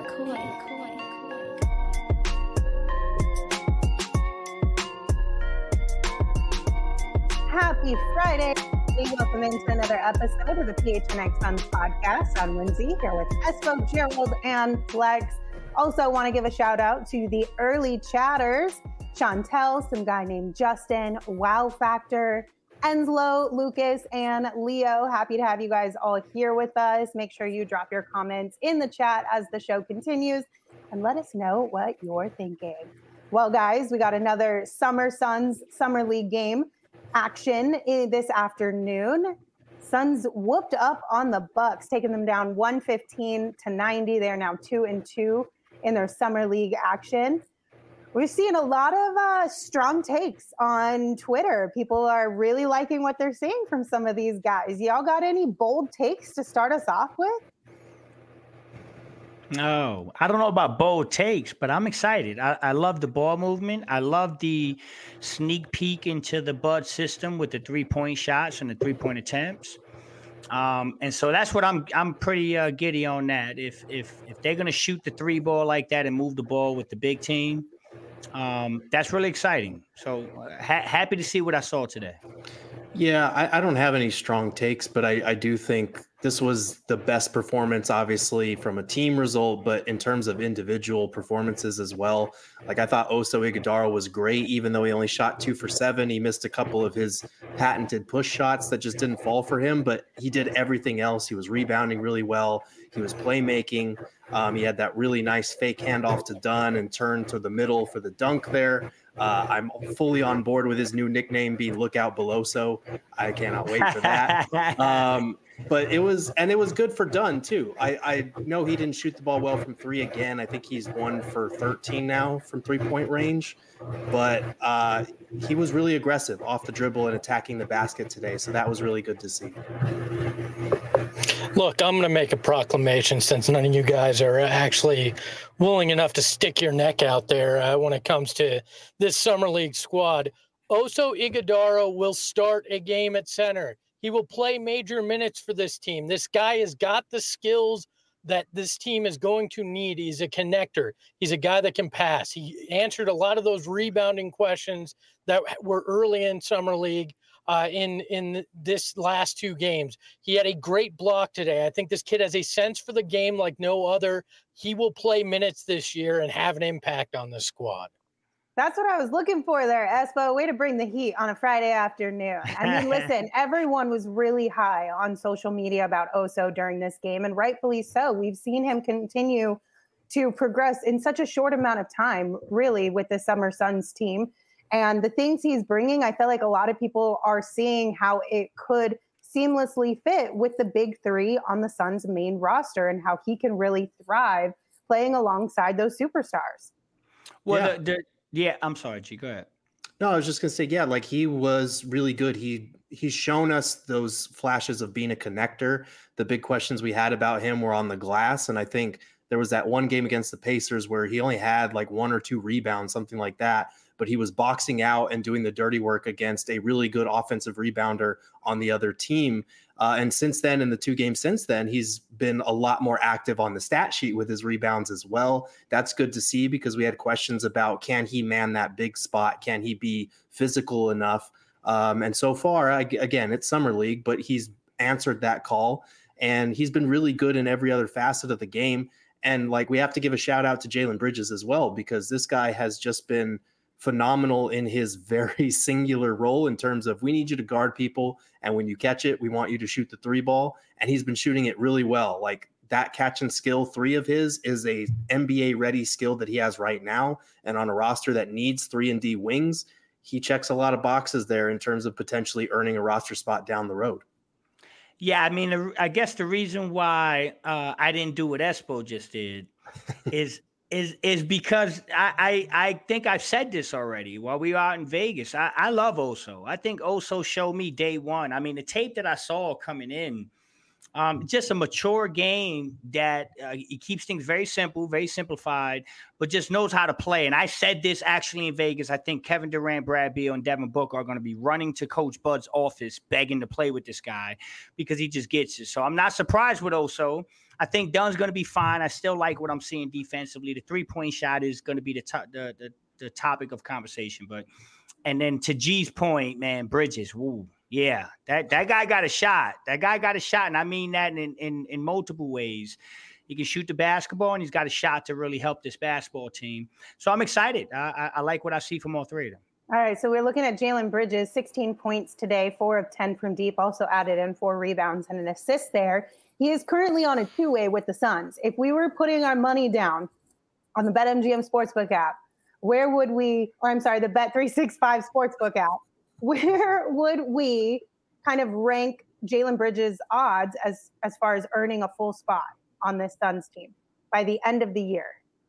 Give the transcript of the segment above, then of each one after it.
Happy Friday. Welcome into another episode of the PHNX Suns podcast. I'm Lindsay here with Espo, Gerald, and Flex. Also want to give a shout out to the early chatters, Chantel, some guy named Justin, Wow Factor, Enslow, Lucas, and Leo. Happy to have you guys all here with us. Make sure you drop your comments in the chat as the show continues and let us know what you're thinking. Well, guys, we got another Summer Suns Summer League game action this afternoon. Suns whooped up on the Bucks, taking them down 115-90. They are now 2-2 in their Summer League action. We've seen a lot of strong takes on Twitter. People are really liking what they're seeing from some of these guys. Y'all got any bold takes to start us off with? No, I don't know about bold takes, but I'm excited. I love the ball movement. I love the sneak peek into the Bud system with the 3-point shots and the 3-point attempts. And so that's what I'm pretty giddy on that. If they're going to shoot the 3 ball like that and move the ball with the big team, that's really exciting. So happy to see what I saw today. Yeah, I don't have any strong takes, but I do think this was the best performance, obviously, from a team result, but in terms of individual performances as well. Like, I thought Oso Ighodaro was great, even though he only shot 2 for 7. He missed a couple of his patented push shots that just didn't fall for him, but he did everything else. He was rebounding really well. He was playmaking. He had that really nice fake handoff to Dunn and turn to the middle for the dunk there. I'm fully on board with his new nickname being Lookout Beloso. I cannot wait for that. But it was good for Dunn too. I know he didn't shoot the ball well from 3 again. I think he's 1 for 13 now from 3-point range, but he was really aggressive off the dribble and attacking the basket today. So that was really good to see. Look, I'm going to make a proclamation since none of you guys are actually willing enough to stick your neck out there when it comes to this Summer League squad. Oso Ighodaro will start a game at center. He will play major minutes for this team. This guy has got the skills that this team is going to need. He's a connector. He's a guy that can pass. He answered a lot of those rebounding questions that were early in Summer League. In this last 2 games. He had a great block today. I think this kid has a sense for the game like no other. He will play minutes this year and have an impact on the squad. That's what I was looking for there, Espo. Way to bring the heat on a Friday afternoon. I mean, listen, everyone was really high on social media about Oso during this game, and rightfully so. We've seen him continue to progress in such a short amount of time, really, with the Summer Suns team. And the things he's bringing, I feel like a lot of people are seeing how it could seamlessly fit with the big 3 on the Suns' main roster and how he can really thrive playing alongside those superstars. Well, I'm sorry, G, go ahead. No, I was just going to say, yeah, like he was really good. He's shown us those flashes of being a connector. The big questions we had about him were on the glass. And I think there was that one game against the Pacers where he only had like 1 or 2 rebounds, something like that. But he was boxing out and doing the dirty work against a really good offensive rebounder on the other team. And since then, in the 2 games since then, he's been a lot more active on the stat sheet with his rebounds as well. That's good to see because we had questions about, can he man that big spot? Can he be physical enough? And so far, again, it's Summer League, but he's answered that call. And he's been really good in every other facet of the game. And like, we have to give a shout out to Jalen Bridges as well, because this guy has just been phenomenal in his very singular role in terms of, we need you to guard people, and when you catch it, we want you to shoot the 3 ball. And he's been shooting it really well. Like, that catch and skill 3 of his is a NBA ready skill that he has right now. And on a roster that needs 3-and-D wings, he checks a lot of boxes there in terms of potentially earning a roster spot down the road. Yeah, I mean, I guess the reason why I didn't do what Espo just did is because I think I've said this already while we were out in Vegas. I love Oso. I think Oso showed me day one. I mean, the tape that I saw coming in, Just a mature game that it keeps things very simple, very simplified, but just knows how to play. And I said this actually in Vegas. I think Kevin Durant, Brad Beal, and Devin Booker are going to be running to Coach Bud's office begging to play with this guy because he just gets it. So I'm not surprised with Oso. I think Dunn's going to be fine. I still like what I'm seeing defensively. The three-point shot is going to be the topic of conversation. And then to G's point, man, Bridges, woo. Yeah, that guy got a shot. That guy got a shot, and I mean that in multiple ways. He can shoot the basketball, and he's got a shot to really help this basketball team. So I'm excited. I like what I see from all three of them. All right, so we're looking at Jalen Bridges, 16 points today, 4 of 10 from deep, also added in 4 rebounds and an assist there. He is currently on a two-way with the Suns. If we were putting our money down on the BetMGM Sportsbook app, the Bet365 Sportsbook app, where would we kind of rank Jalen Bridges' odds as far as earning a full spot on this Suns team by the end of the year?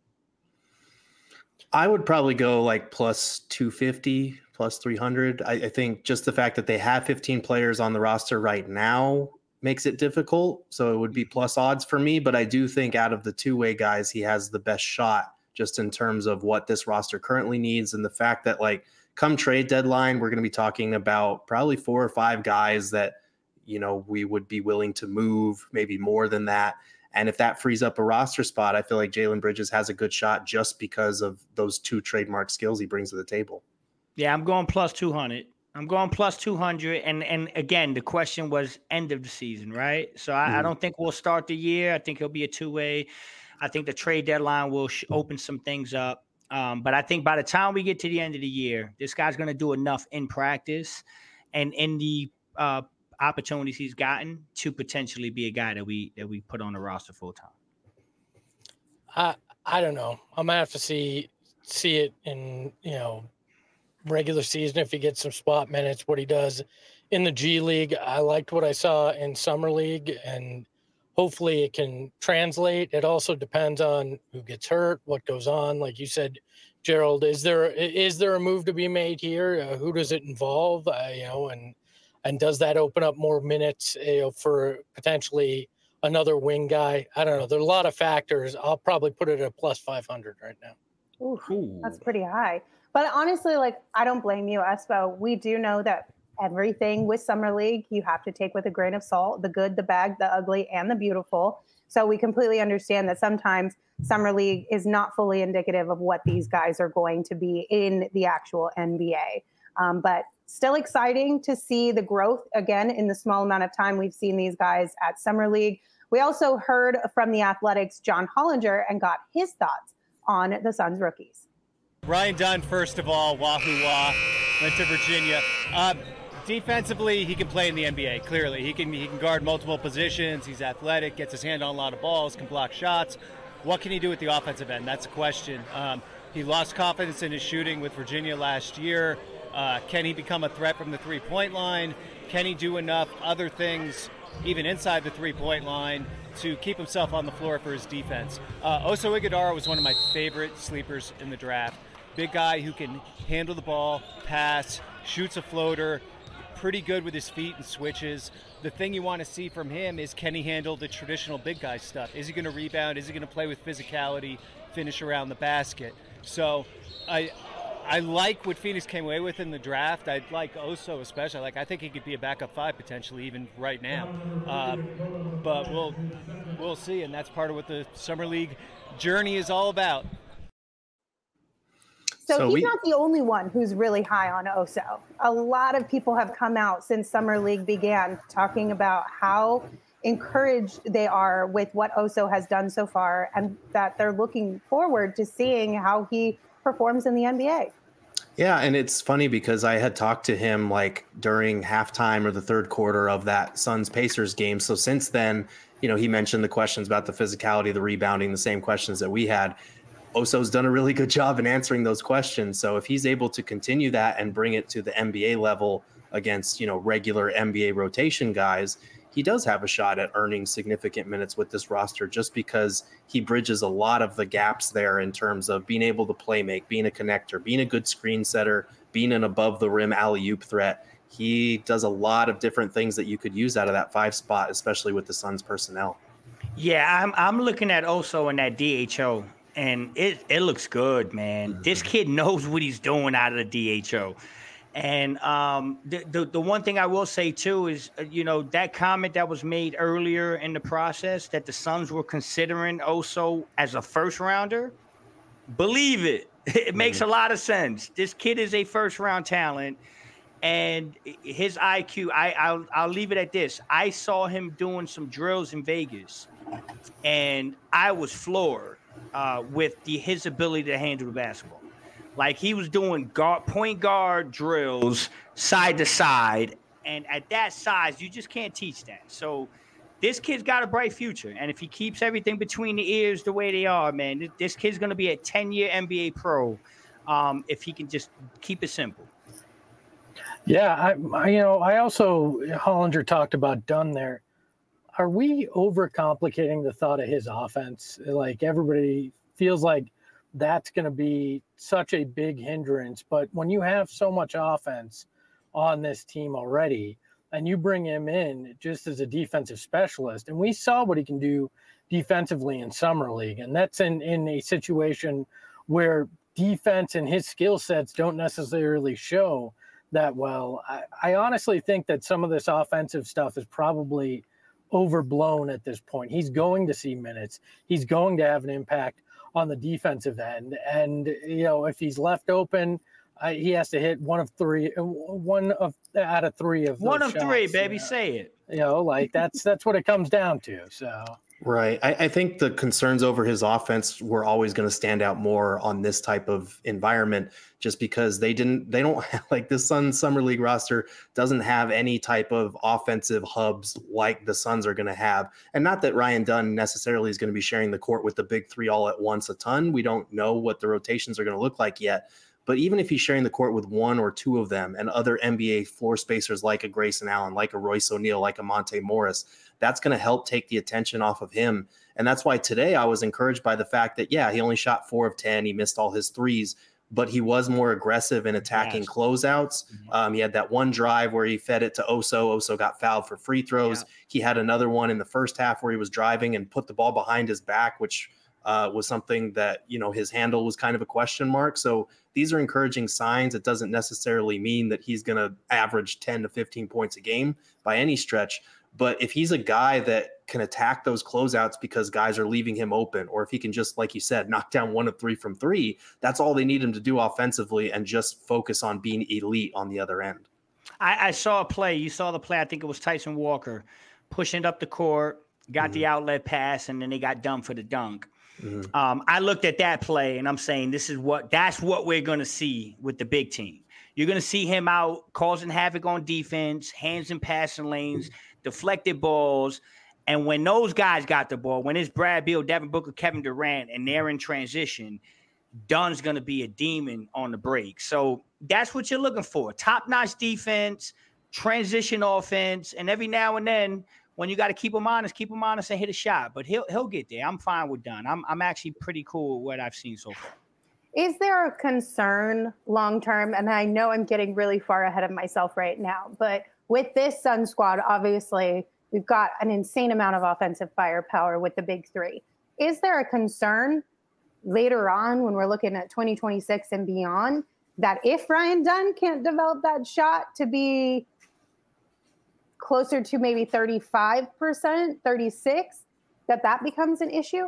I would probably go like plus 250, plus 300. I think just the fact that they have 15 players on the roster right now makes it difficult. So it would be plus odds for me. But I do think out of the two-way guys, he has the best shot just in terms of what this roster currently needs. And the fact that like come trade deadline, we're going to be talking about probably 4 or 5 guys that, you know, we would be willing to move, maybe more than that. And if that frees up a roster spot, I feel like Jalen Bridges has a good shot just because of those 2 trademark skills he brings to the table. Yeah, I'm going plus 200. I'm going plus 200. And again, the question was end of the season, right? So I don't think we'll start the year. I think he'll be a two-way. I think the trade deadline will open some things up. But I think by the time we get to the end of the year, this guy's going to do enough in practice and in the opportunities he's gotten to potentially be a guy that we put on the roster full time. I don't know. I'm gonna have to see it in, you know, regular season if he gets some spot minutes, what he does in the G League. I liked what I saw in Summer League, and hopefully it can translate. It also depends on who gets hurt, what goes on. Like you said, Gerald, is there a move to be made here? Who does it involve? And does that open up more minutes, for potentially another wing guy? I don't know. There are a lot of factors. I'll probably put it at plus 500 right now. Ooh, that's pretty high. But honestly, like, I don't blame you, Espo. We do know that everything with Summer League, you have to take with a grain of salt, the good, the bad, the ugly, and the beautiful. So we completely understand that sometimes Summer League is not fully indicative of what these guys are going to be in the actual NBA. But still exciting to see the growth again in the small amount of time we've seen these guys at Summer League. We also heard from the Athletics' John Hollinger and got his thoughts on the Suns rookies. Ryan Dunn, first of all, wahoo wah, went to Virginia. Defensively, he can play in the NBA, clearly. He can guard multiple positions. He's athletic, gets his hand on a lot of balls, can block shots. What can he do at the offensive end? That's a question. He lost confidence in his shooting with Virginia last year. Can he become a threat from the three-point line? Can he do enough other things, even inside the three-point line, to keep himself on the floor for his defense? Oso Ighodaro was one of my favorite sleepers in the draft. Big guy who can handle the ball, pass, shoots a floater, pretty good with his feet and switches. The thing you want to see from him is, can he handle the traditional big guy stuff? Is he going to rebound? Is he going to play with physicality, finish around the basket? So I like what Phoenix came away with in the draft. I like Oso especially. I think he could be a backup 5 potentially even right now. But we'll see, and that's part of what the Summer League journey is all about. So he's not the only one who's really high on Oso. A lot of people have come out since Summer League began talking about how encouraged they are with what Oso has done so far, and that they're looking forward to seeing how he performs in the NBA. Yeah, and it's funny because I had talked to him like during halftime or the third quarter of that Suns-Pacers game. So since then, he mentioned the questions about the physicality, the rebounding, the same questions that we had. Oso's done a really good job in answering those questions. So if he's able to continue that and bring it to the NBA level against, regular NBA rotation guys, he does have a shot at earning significant minutes with this roster just because he bridges a lot of the gaps there in terms of being able to play make, being a connector, being a good screen setter, being an above the rim alley-oop threat. he does a lot of different things that you could use out of that 5 spot, especially with the Suns personnel. Yeah, I'm looking at Oso in that DHO, and it looks good, man. This kid knows what he's doing out of the DHO. And the one thing I will say too is, that comment that was made earlier in the process that the Suns were considering Oso as a first rounder. Believe it. It makes a lot of sense. This kid is a first round talent. And his IQ, I'll leave it at this. I saw him doing some drills in Vegas, and I was floored with his ability to handle the basketball. Like, he was doing point guard drills side to side, and at that size, you just can't teach that. So this kid's got a bright future, and if he keeps everything between the ears the way they are, man, this kid's going to be a 10-year NBA pro if he can just keep it simple. Yeah, I also, Hollinger talked about Dunn there. Are we overcomplicating the thought of his offense? Like, everybody feels like that's going to be such a big hindrance. But when you have so much offense on this team already, and you bring him in just as a defensive specialist, and we saw what he can do defensively in Summer League, and that's in a situation where defense and his skill sets don't necessarily show that well. I honestly think that some of this offensive stuff is probably overblown at this point. He's going to see minutes. He's going to have an impact on the defensive end. And, if he's left open, he has to hit one out of three of those one of shots, three, baby. Say it. That's what it comes down to. So. Right. I think the concerns over his offense were always going to stand out more on this type of environment, just because they don't like the Suns Summer League roster doesn't have any type of offensive hubs like the Suns are going to have. And not that Ryan Dunn necessarily is going to be sharing the court with the big three all at once a ton. We don't know what the rotations are going to look like yet. But even if he's sharing the court with one or two of them and other NBA floor spacers like a Grayson Allen, like a Royce O'Neal, like a Monte Morris, that's going to help take the attention off of him. And that's why today I was encouraged by the fact that, he only shot 4 of 10. He missed all his threes, but he was more aggressive in attacking closeouts. He had that one drive where he fed it to Oso. Oso got fouled for free throws. Yeah. He had another one in the first half where he was driving and put the ball behind his back, which was something that, his handle was kind of a question mark. So these are encouraging signs. It doesn't necessarily mean that he's going to average 10 to 15 points a game by any stretch. But if he's a guy that can attack those closeouts because guys are leaving him open, or if he can just, like you said, knock down 1 of 3 from 3, that's all they need him to do offensively and just focus on being elite on the other end. I saw a play. You saw the play. I think it was Tyson Walker pushing up the court, got the outlet pass, and then they got done for the dunk. I looked at that play and I'm saying that's what we're going to see with the big team. You're going to see him out causing havoc on defense, hands in passing lanes, deflected balls. And when those guys got the ball, when it's Brad Beal, Devin Booker, Kevin Durant, and they're in transition, Dunn's going to be a demon on the break. So that's what you're looking for. Top-notch defense, transition offense, and every now and then when you got to keep him honest and hit a shot. But he'll get there. I'm fine with Dunn. I'm actually pretty cool with what I've seen so far. Is there a concern long term? And I know I'm getting really far ahead of myself right now, but with this Sun squad, obviously we've got an insane amount of offensive firepower with the big three. Is there a concern later on when we're looking at 2026 and beyond that if Ryan Dunn can't develop that shot to be closer to maybe 35%, 36%, that becomes an issue?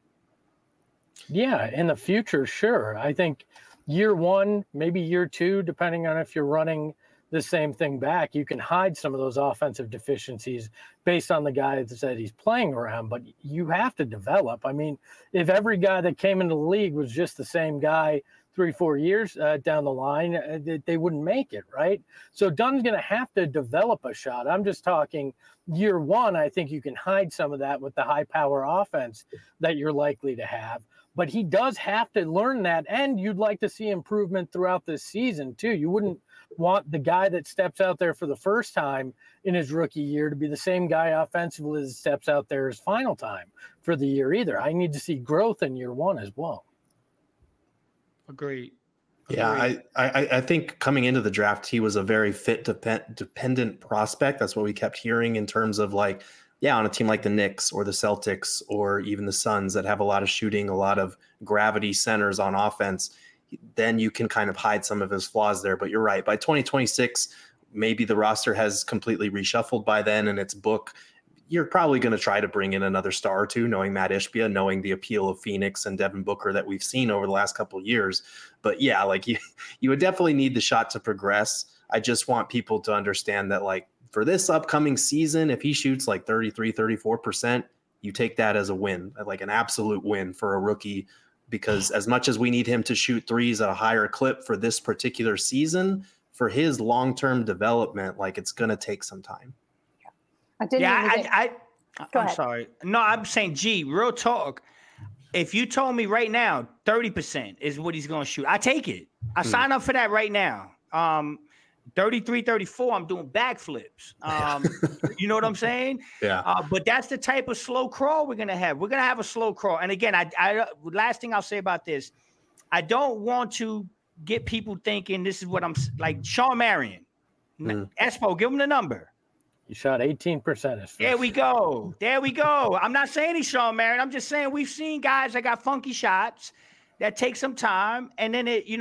Yeah, in the future, sure. I think year 1, maybe year 2, depending on if you're running the same thing back, you can hide some of those offensive deficiencies based on the guys that he's playing around, but you have to develop. I mean, if every guy that came into the league was just the same guy 3-4 years down the line, they wouldn't make it, right? So Dunn's going to have to develop a shot. I'm just talking year 1. I think you can hide some of that with the high power offense that you're likely to have. But he does have to learn that, and you'd like to see improvement throughout this season, too. You wouldn't want the guy that steps out there for the first time in his rookie year to be the same guy offensively as steps out there his final time for the year either. I need to see growth in year 1 as well. Agreed. Yeah, I think coming into the draft, he was a very fit dependent prospect. That's what we kept hearing in terms of like, yeah, on a team like the Knicks or the Celtics or even the Suns that have a lot of shooting, a lot of gravity centers on offense, then you can kind of hide some of his flaws there. But you're right. By 2026, maybe the roster has completely reshuffled by then and it's book. You're probably going to try to bring in another star or two, knowing Matt Ishbia, knowing the appeal of Phoenix and Devin Booker that we've seen over the last couple of years. But yeah, like you would definitely need the shot to progress. I just want people to understand that like for this upcoming season, if he shoots like 33, 34%, you take that as a win, like an absolute win for a rookie, because as much as we need him to shoot threes at a higher clip for this particular season, for his long-term development, like it's going to take some time. I'm sorry. No, I'm saying, real talk. If you told me right now 30% is what he's going to shoot, I take it. I sign up for that right now. 33, 34, I'm doing backflips. You know what I'm saying? Yeah. But that's the type of slow crawl we're going to have. We're going to have a slow crawl. And again, I last thing I'll say about this, I don't want to get people thinking this is what I'm like. Sean Marion, Espo, give him the number. He shot 18%. There we go. I'm not saying he's Sean Marion. I'm just saying we've seen guys that got funky shots that take some time. And then, if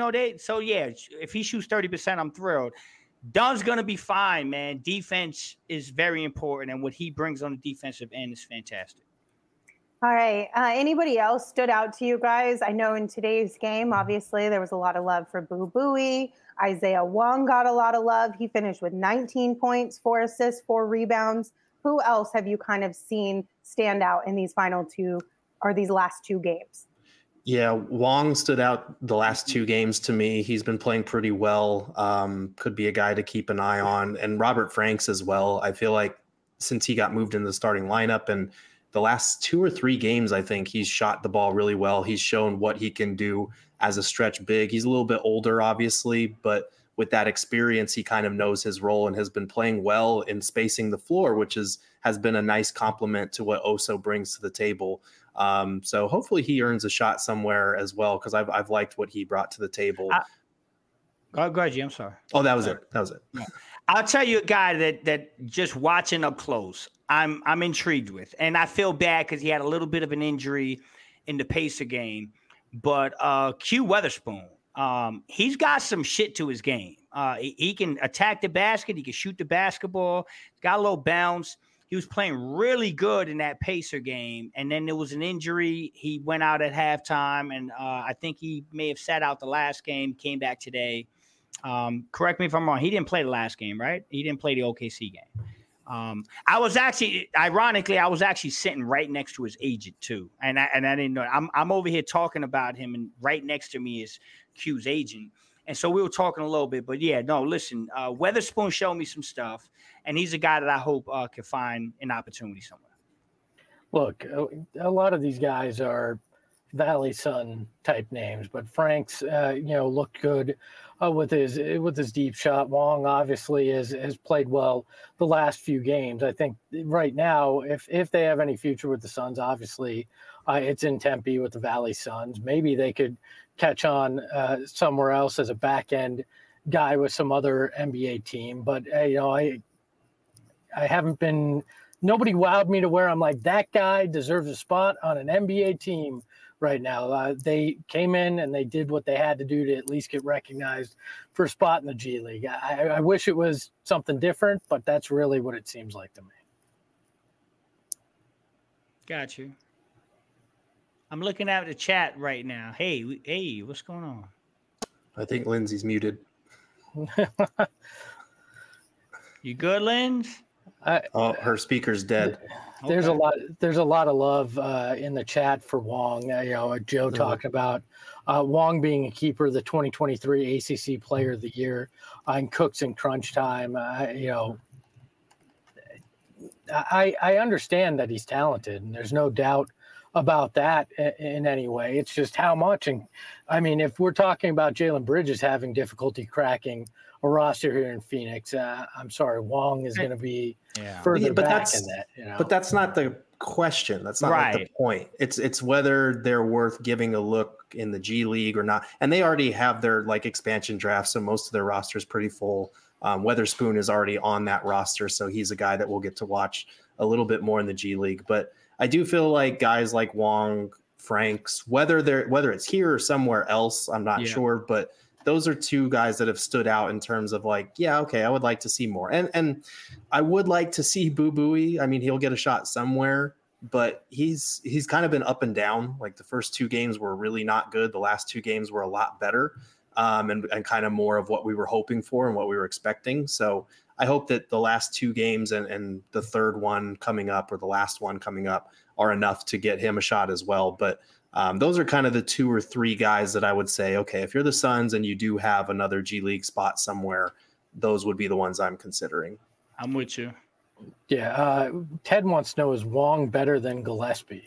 he shoots 30%, I'm thrilled. Dunn's going to be fine, man. Defense is very important. And what he brings on the defensive end is fantastic. All right. Anybody else stood out to you guys? I know in today's game, obviously, there was a lot of love for Boo Buie. Isaiah Wong got a lot of love. He finished with 19 points, 4 assists, 4 rebounds. Who else have you kind of seen stand out in these these last 2 games? Yeah, Wong stood out the last 2 games to me. He's been playing pretty well. Could be a guy to keep an eye on. And Robert Franks as well. I feel like since he got moved into the starting lineup and the last 2 or 3 games, I think he's shot the ball really well. He's shown what he can do as a stretch big. He's a little bit older, obviously, but with that experience, he kind of knows his role and has been playing well in spacing the floor, which has been a nice compliment to what Oso brings to the table. So hopefully he earns a shot somewhere as well, because I've liked what he brought to the table. Go ahead, G. I'm sorry. Oh, that was it. Yeah. I'll tell you a guy that just watching up close, I'm intrigued with, and I feel bad because he had a little bit of an injury in the Pacer game. But Q Weatherspoon, he's got some shit to his game. He can attack the basket. He can shoot the basketball. He's got a little bounce. He was playing really good in that Pacer game. And then there was an injury. He went out at halftime, and I think he may have sat out the last game, came back today. Correct me if I'm wrong. He didn't play the last game, right? He didn't play the OKC game. I was actually sitting right next to his agent too. And I didn't know. I'm over here talking about him, and right next to me is Q's agent. And so we were talking a little bit, but yeah, no, listen, Weatherspoon showed me some stuff, and he's a guy that I hope can find an opportunity somewhere. Look, a lot of these guys are Valley Sun type names, but Franks, looked good with his deep shot. Wong obviously has played well the last few games. I think right now, if they have any future with the Suns, obviously it's in Tempe with the Valley Suns. Maybe they could catch on somewhere else as a back end guy with some other NBA team. But I haven't been. Nobody wowed me to where I'm like, that guy deserves a spot on an NBA team right now. They came in and they did what they had to do to at least get recognized for a spot in the G League. I wish it was something different, but that's really what it seems like to me. Got you. I'm looking at the chat right now. Hey, what's going on? I think Lindsay's muted. You good, Linz? Her speaker's dead. There's a lot of love in the chat for Wong. Joe talking about Wong being a keeper, the 2023 ACC Player of the Year, and Cooks in crunch time. I understand that he's talented, and there's no doubt about that in any way. It's just how much. And I mean, if we're talking about Jalen Bridges having difficulty cracking a roster here in Phoenix, I'm sorry, Wong is going to be further back in that. But that's not the question. That's not like the point. It's whether they're worth giving a look in the G League or not. And they already have their like expansion draft, so most of their roster is pretty full. Weatherspoon is already on that roster, so he's a guy that we'll get to watch a little bit more in the G League. But I do feel like guys like Wong, Franks, whether it's here or somewhere else, I'm not sure, but those are two guys that have stood out in terms of like, yeah, okay, I would like to see more. And I would like to see Boo Buie. I mean, he'll get a shot somewhere, but he's kind of been up and down. Like the first 2 games were really not good. The last 2 games were a lot better. And kind of more of what we were hoping for and what we were expecting. So I hope that the last 2 games and the third one coming up or the last one coming up are enough to get him a shot as well. But those are kind of the 2 or 3 guys that I would say, okay, if you're the Suns and you do have another G League spot somewhere, those would be the ones I'm considering. I'm with you. Yeah. Ted wants to know, is Wong better than Gillespie?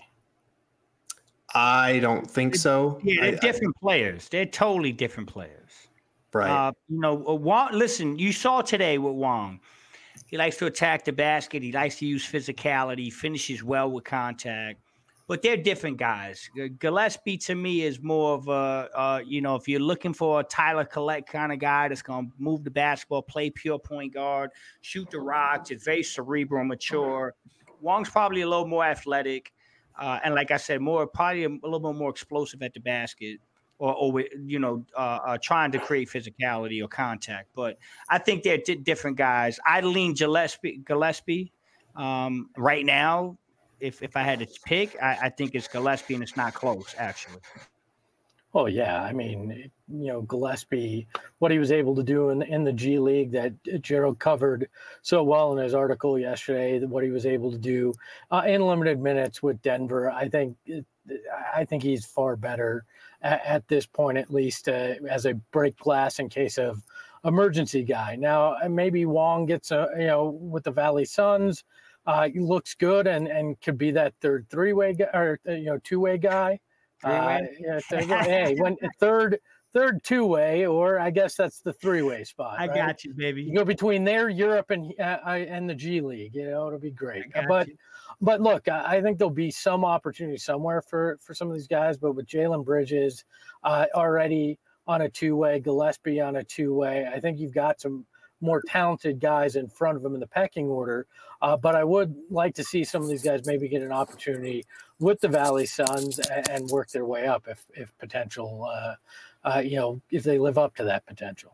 I don't think so. Yeah, they're different players. They're totally different players. Right. Wong, listen, you saw today with Wong. He likes to attack the basket. He likes to use physicality, finishes well with contact. But they're different guys. Gillespie, to me, is more of a, if you're looking for a Tyler Collette kind of guy that's going to move the basketball, play pure point guard, shoot the rocks, it's very cerebral, mature. Wong's probably a little more athletic. And like I said, probably a little bit more explosive at the basket, or trying to create physicality or contact. But I think they're different guys. I lean Gillespie right now. If I had to pick, I think it's Gillespie, and it's not close, actually. Oh, yeah. I mean, Gillespie, what he was able to do in the G League that Gerald covered so well in his article yesterday, what he was able to do in limited minutes with Denver, I think he's far better at this point, at least as a break glass in case of emergency guy. Now, maybe Wong gets with the Valley Suns, he looks good and could be that third 3-way guy or 2-way guy. Hey, when third 2-way, or I guess that's the 3-way spot. I right? got you, baby. You go between there, Europe, and the G League. It'll be great. But look, I think there'll be some opportunity somewhere for some of these guys. But with Jalen Bridges already on a 2-way, Gillespie on a 2-way, I think you've got some more talented guys in front of him in the pecking order. But I would like to see some of these guys maybe get an opportunity with the Valley Suns and work their way up if potential, if they live up to that potential.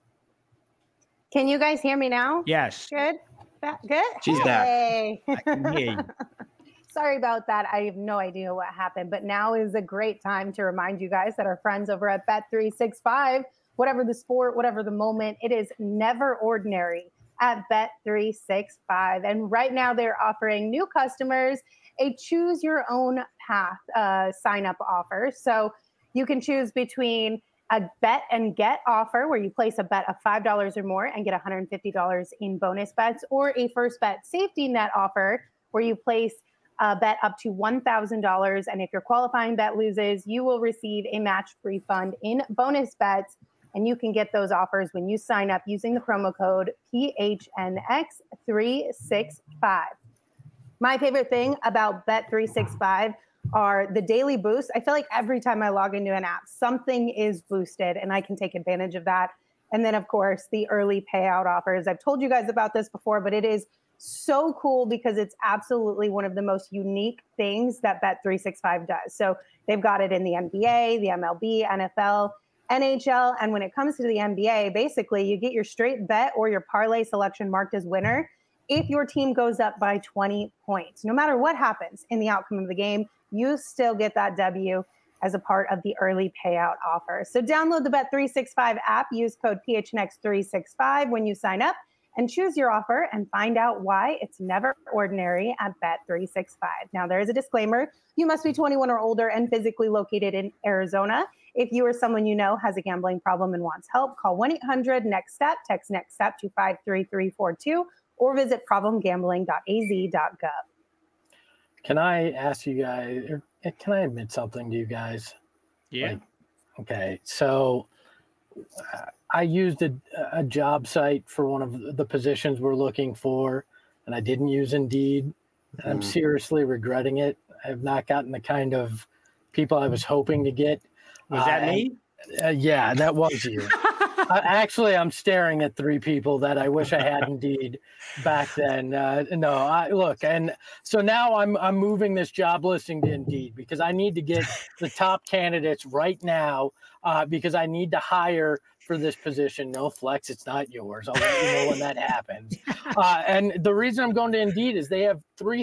Can you guys hear me now? Yes. Good? Good? She's back. I can hear you. Sorry about that. I have no idea what happened, but now is a great time to remind you guys that our friends over at Bet365, whatever the sport, whatever the moment, it is never ordinary at Bet365. And right now they're offering new customers a choose your own path sign up offer. So you can choose between a bet and get offer where you place a bet of $5 or more and get $150 in bonus bets, or a first bet safety net offer where you place a bet up to $1,000. And if your qualifying bet loses, you will receive a match refund in bonus bets. And you can get those offers when you sign up using the promo code PHNX365. My favorite thing about Bet365 are the daily boosts. I feel like every time I log into an app, something is boosted and I can take advantage of that. And then, of course, the early payout offers. I've told you guys about this before, but it is so cool because it's absolutely one of the most unique things that Bet365 does. So they've got it in the NBA, the MLB, NFL, NHL. And when it comes to the NBA, basically you get your straight bet or your parlay selection marked as winner if your team goes up by 20 points. No matter what happens in the outcome of the game, you still get that W as a part of the early payout offer. So download the Bet365 app, use code PHNX365 when you sign up, and choose your offer and find out why it's never ordinary at Bet365. Now, there is a disclaimer. You must be 21 or older and physically located in Arizona. If you or someone you know has a gambling problem and wants help, call 1-800-NEXT-STEP, text NEXT STEP to 53342, or visit problemgambling.az.gov. Can I ask you guys, or can I admit something to you guys? Yeah. Okay. So I used a job site for one of the positions we're looking for, and I didn't use Indeed. I'm seriously regretting it. I have not gotten the kind of people I was hoping to get. Was that me? Yeah, that was you. Actually, I'm staring at 3 people that I wish I had Indeed back then. Look, and so now I'm moving this job listing to Indeed because I need to get the top candidates right now because I need to hire for this position. No flex, it's not yours. I'll let you know when that happens. And the reason I'm going to Indeed is they have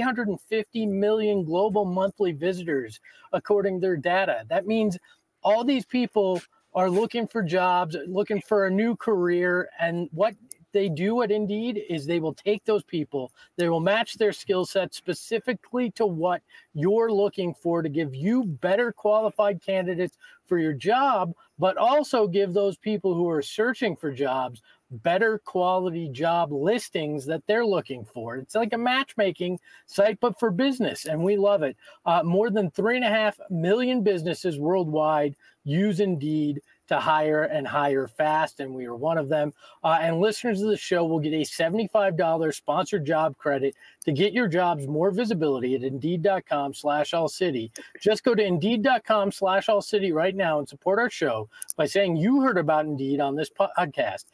350 million global monthly visitors, according to their data. That means all these people are looking for jobs, looking for a new career. And what they do at Indeed is they will take those people, they will match their skill set specifically to what you're looking for to give you better qualified candidates for your job, but also give those people who are searching for jobs better quality job listings that they're looking for. It's like a matchmaking site, but for business, and we love it. More than 3.5 million businesses worldwide use Indeed to hire and hire fast, and we are one of them. And listeners of the show will get a $75 sponsored job credit to get your jobs more visibility at Indeed.com/AllCity. Just go to Indeed.com/AllCity right now and support our show by saying you heard about Indeed on this podcast.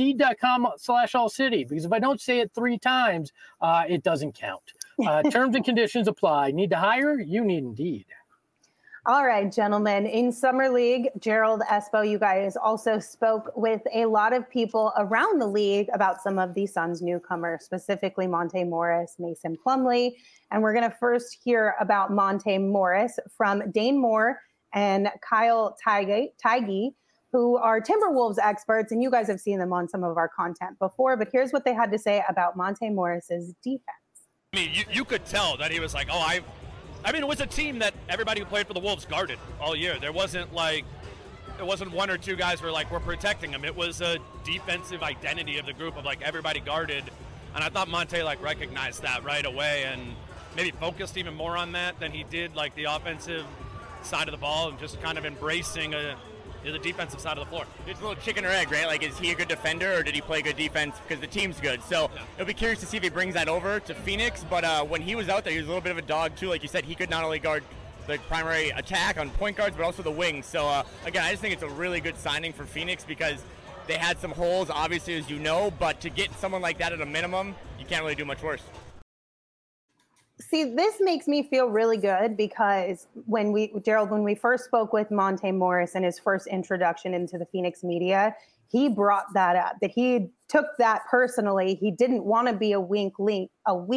Indeed.com/AllCity, because if I don't say it 3 times, it doesn't count. Terms and conditions apply. Need to hire? You need Indeed. All right, gentlemen. In Summer League, Gerald, Espo, you guys also spoke with a lot of people around the league about some of the Suns newcomers, specifically Monte Morris, Mason Plumlee. And we're going to first hear about Monte Morris from Dane Moore and Kyle Theige, who are Timberwolves experts. And you guys have seen them on some of our content before. But here's what they had to say about Monte Morris's defense. I mean, you could tell that he was like, I mean, it was a team that everybody who played for the Wolves guarded all year. There wasn't 1 or 2 guys who were like, we're protecting him. It was a defensive identity of the group of like everybody guarded. And I thought Monte like recognized that right away and maybe focused even more on that than he did like the offensive side of the ball and just kind of embracing the defensive side of the floor. It's a little chicken or egg, right? Like, is he a good defender or did he play good defense because the team's good? So it'll be curious to see if he brings that over to Phoenix. But when he was out there, he was a little bit of a dog too. Like you said, he could not only guard the primary attack on point guards, but also the wings. So again, I just think it's a really good signing for Phoenix because they had some holes, obviously, as you know. But to get someone like that at a minimum, you can't really do much worse. See, this makes me feel really good because when we first spoke with Monte Morris in his first introduction into the Phoenix media, he brought that up, that he took that personally. He didn't want to be a weak link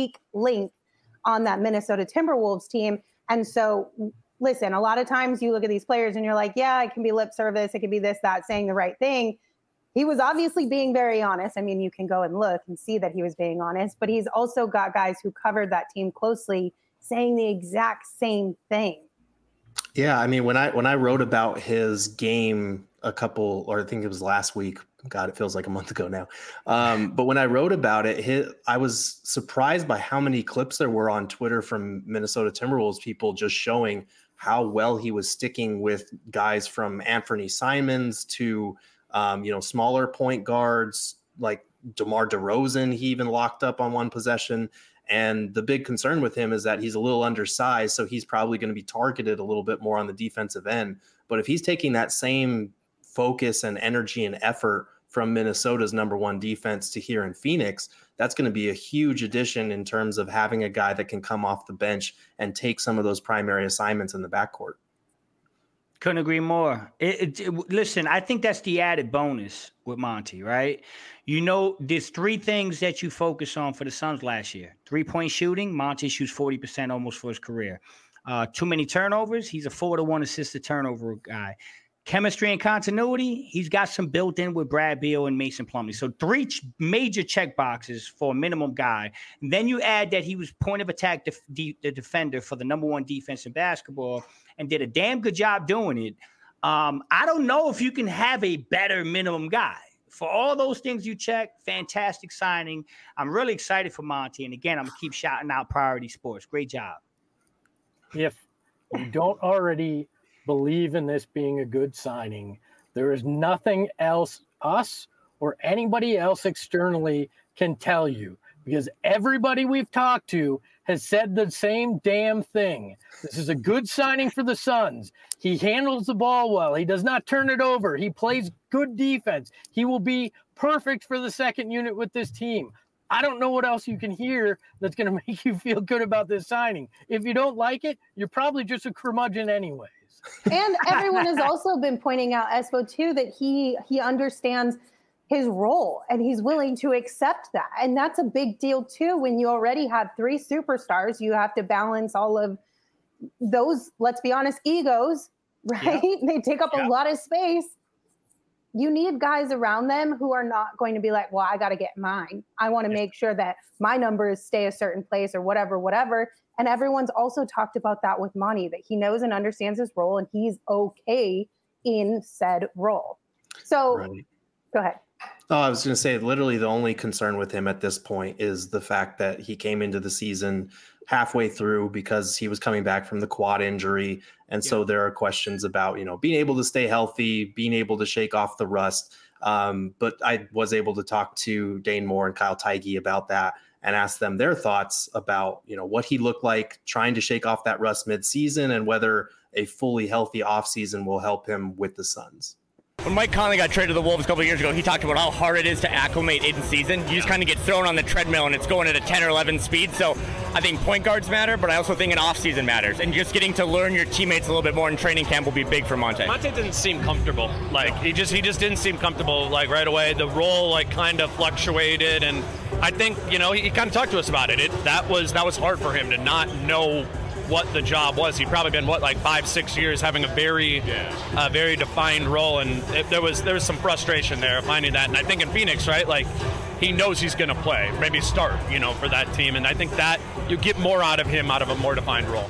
on that Minnesota Timberwolves team. And so, listen, a lot of times you look at these players and you're like, yeah, it can be lip service. It can be this, that, saying the right thing. He was obviously being very honest. I mean, you can go and look and see that he was being honest, but he's also got guys who covered that team closely saying the exact same thing. Yeah, I mean, when I wrote about his game I think it was last week. God, it feels like a month ago now. But when I wrote about it, I was surprised by how many clips there were on Twitter from Minnesota Timberwolves people just showing how well he was sticking with guys from Anthony Simons to smaller point guards like DeMar DeRozan. He even locked up on one possession. And the big concern with him is that he's a little undersized, so he's probably going to be targeted a little bit more on the defensive end. But if he's taking that same focus and energy and effort from Minnesota's number 1 defense to here in Phoenix, that's going to be a huge addition in terms of having a guy that can come off the bench and take some of those primary assignments in the backcourt. Couldn't agree more. Listen, I think that's the added bonus with Monty, right? There's 3 things that you focus on for the Suns last year. 3-point shooting, Monty shoots 40% almost for his career. Too many turnovers, he's a 4-to-1 assisted turnover guy. Chemistry and continuity, he's got some built in with Brad Beal and Mason Plumlee. So 3 major check boxes for a minimum guy. And then you add that he was point of attack the defender for the number 1 defense in basketball and did a damn good job doing it. I don't know if you can have a better minimum guy. For all those things you check, fantastic signing. I'm really excited for Monty. And again, I'm going to keep shouting out Priority Sports. Great job. If you don't already believe in this being a good signing, there is nothing else us or anybody else externally can tell you, because everybody we've talked to has said the same damn thing. This is a good signing for the Suns. He handles the ball well. He does not turn it over. He plays good defense. He will be perfect for the second unit with this team. I don't know what else you can hear that's going to make you feel good about this signing. If you don't like it, you're probably just a curmudgeon anyways. And everyone has also been pointing out, Espo, too, that he understands his role and he's willing to accept that. And that's a big deal, too. When you already have 3 superstars, you have to balance all of those, let's be honest, egos, right? Yeah. They take up a lot of space. You need guys around them who are not going to be like, well, I got to get mine. I want to make sure that my numbers stay a certain place or whatever. And everyone's also talked about that with Monty, that he knows and understands his role and he's okay in said role. So Go ahead. Oh, I was going to say, literally the only concern with him at this point is the fact that he came into the season halfway through because he was coming back from the quad injury. And so there are questions about, being able to stay healthy, being able to shake off the rust. But I was able to talk to Dane Moore and Kyle Teige about that and ask them their thoughts about, what he looked like trying to shake off that rust midseason and whether a fully healthy offseason will help him with the Suns. When Mike Conley got traded to the Wolves a couple of years ago, he talked about how hard it is to acclimate in season. You just kind of get thrown on the treadmill and it's going at a 10 or 11 speed. So I think point guards matter, but I also think an off-season matters. And just getting to learn your teammates a little bit more in training camp will be big for Monte. Monte didn't seem comfortable. He just didn't seem comfortable right away. The role kind of fluctuated, and I think he kind of talked to us about it. That was hard for him to not know what the job was. He'd probably been 5-6 years having a very defined role, and there was some frustration there finding that. And I think in Phoenix, he knows he's going to play, maybe start, for that team, and I think that you get more out of him out of a more defined role.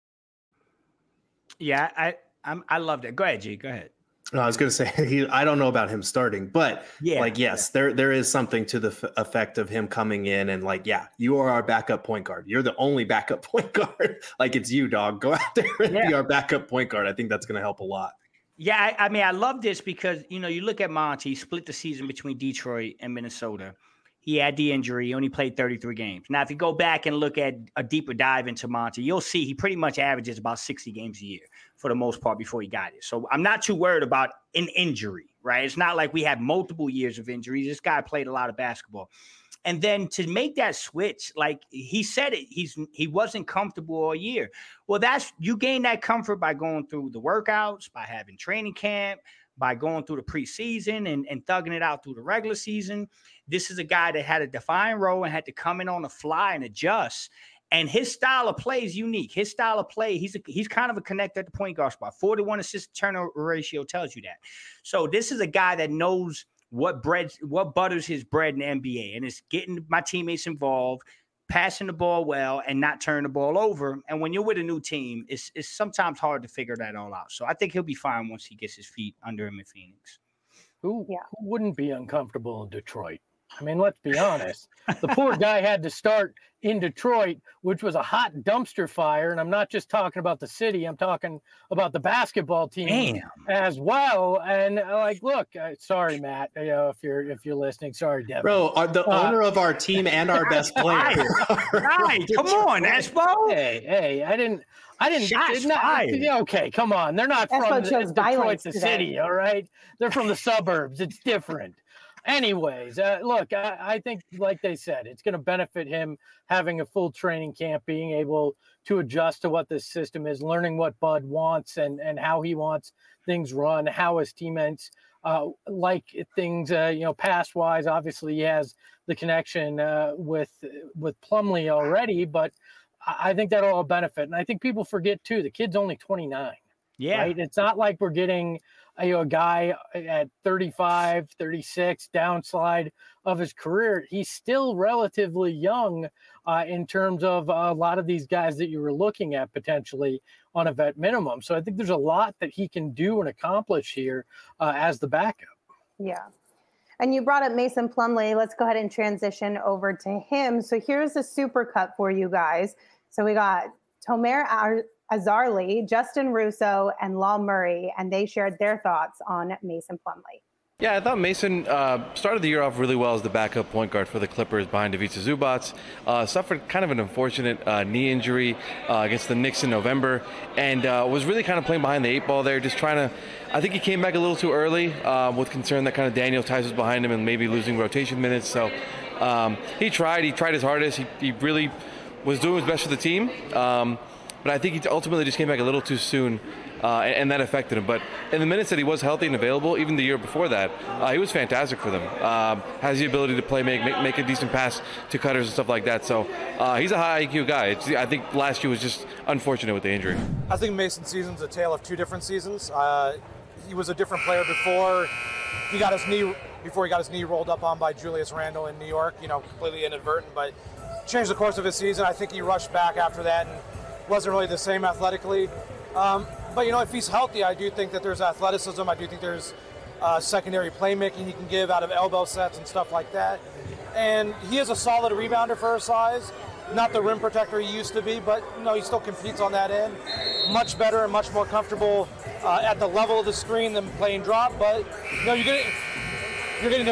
Yeah, I love that. Go ahead, G. Go ahead. No, I was going to say, I don't know about him starting, but yes, there is something to the effect of him coming in and you are our backup point guard. You're the only backup point guard. It's you, dog. Go out there and be our backup point guard. I think that's going to help a lot. Yeah, I love this because, you look at Monty, he split the season between Detroit and Minnesota. He had the injury. He only played 33 games. Now, if you go back and look at a deeper dive into Monty, you'll see he pretty much averages about 60 games a year for the most part before he got it. So I'm not too worried about an injury, right? It's not like we have multiple years of injuries. This guy played a lot of basketball. And then to make that switch, he said it, he wasn't comfortable all year. Well, you gain that comfort by going through the workouts, by having training camp, by going through the preseason and thugging it out through the regular season. This is a guy that had a defined role and had to come in on the fly and adjust. And his style of play is unique. His style of play, he's kind of a connector at the point guard spot. 4-to-1 assist turnover ratio tells you that. So this is a guy that knows what butters his bread in the NBA, and it's getting my teammates involved, passing the ball well, and not turning the ball over. And when you're with a new team, it's sometimes hard to figure that all out. So I think he'll be fine once he gets his feet under him in Phoenix. Who wouldn't be uncomfortable in Detroit? I mean, let's be honest. The poor guy had to start in Detroit, which was a hot dumpster fire. And I'm not just talking about the city. I'm talking about the basketball team as well. And look, sorry, Matt, if you're listening, sorry, Devin. Bro, the owner of our team and our best player. Right. Come on, Espo. Hey, I didn't. Okay, come on. They're not from Detroit, the city, all right? They're from the suburbs. It's different. Anyways, look, I think, like they said, it's going to benefit him having a full training camp, being able to adjust to what this system is, learning what Bud wants and how he wants things run, how his teammates like things, pass-wise. Obviously, he has the connection with Plumlee already, but I think that'll all benefit. And I think people forget, too, the kid's only 29. Yeah. Right? It's not like we're getting a guy at 35, 36 downslide of his career. He's still relatively young in terms of a lot of these guys that you were looking at potentially on a vet minimum. So I think there's a lot that he can do and accomplish here as the backup. Yeah. And you brought up Mason Plumlee. Let's go ahead and transition over to him. So here's the super cut for you guys. So we got Tomer Azarli, Justin Russo, and Law Murray, and they shared their thoughts on Mason Plumlee. Yeah, I thought Mason started the year off really well as the backup point guard for the Clippers behind Ivica Zubac. Suffered kind of an unfortunate knee injury against the Knicks in November, and was really kind of playing behind the 8 ball there, just trying to. I think he came back a little too early with concern that kind of Daniel Tice was behind him and maybe losing rotation minutes. So he tried his hardest. He really was doing his best for the team, but I think he ultimately just came back a little too soon. And that affected him. But in the minutes that he was healthy and available, even the year before that, he was fantastic for them. Has the ability to play, make a decent pass to cutters and stuff like that. So he's a high IQ guy. I think last year was just unfortunate with the injury. I think Mason's season's a tale of 2 different seasons. He was a different player before he got his knee rolled up on by Julius Randle in New York. Completely inadvertent, but changed the course of his season. I think he rushed back after that and wasn't really the same athletically. But, if he's healthy, I do think that there's athleticism. I do think there's secondary playmaking he can give out of elbow sets and stuff like that. And he is a solid rebounder for his size. Not the rim protector he used to be, but, he still competes on that end. Much better and much more comfortable at the level of the screen than playing drop. But, you're getting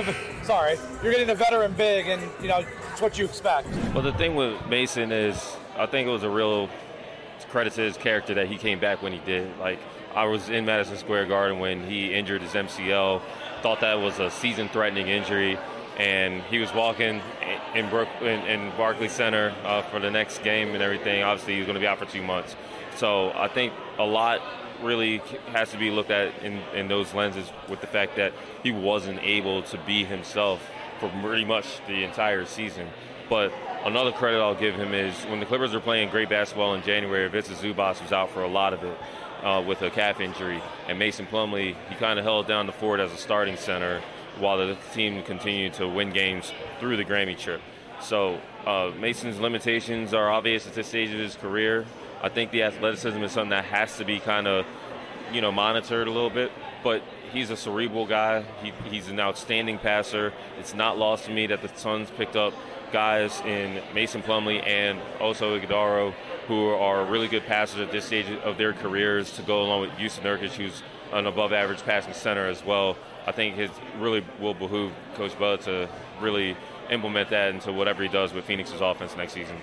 a veteran big, and, it's what you expect. Well, the thing with Mason is I think it was a real credit to his character that he came back when he did. Like, I was in Madison Square Garden when he injured his MCL, thought that was a season-threatening injury, and he was walking in Barclays Center for the next game and everything. Obviously, he was going to be out for 2 months. So I think a lot really has to be looked at in those lenses with the fact that he wasn't able to be himself for pretty much the entire season. But another credit I'll give him is when the Clippers were playing great basketball in January, Ivica Zubac was out for a lot of it with a calf injury. And Mason Plumlee, he kind of held down the fort as a starting center while the team continued to win games through the Grammy trip. So Mason's limitations are obvious at this stage of his career. I think the athleticism is something that has to be kind of, monitored a little bit. But he's a cerebral guy. He's an outstanding passer. It's not lost to me that the Suns picked up guys in Mason Plumlee and also Iguodala who are really good passers at this stage of their careers to go along with Jusuf Nurkic, who's an above-average passing center as well. I think it really will behoove Coach Bud to really implement that into whatever he does with Phoenix's offense next season.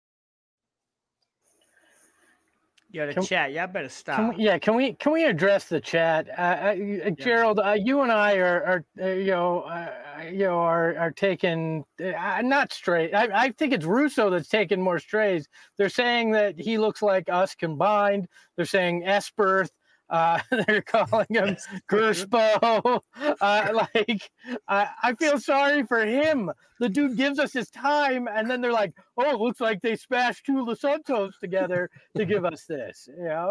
Yeah, chat. Y'all better stop. Can we address the chat? Gerald, you and I are taking not straight. I think it's Russo that's taking more strays. They're saying that he looks like us combined. They're saying Esperth. They're calling him Gerspo. I feel sorry for him. The dude gives us his time, and then they're like, "Oh, it looks like they smashed 2 Santos together to give us this."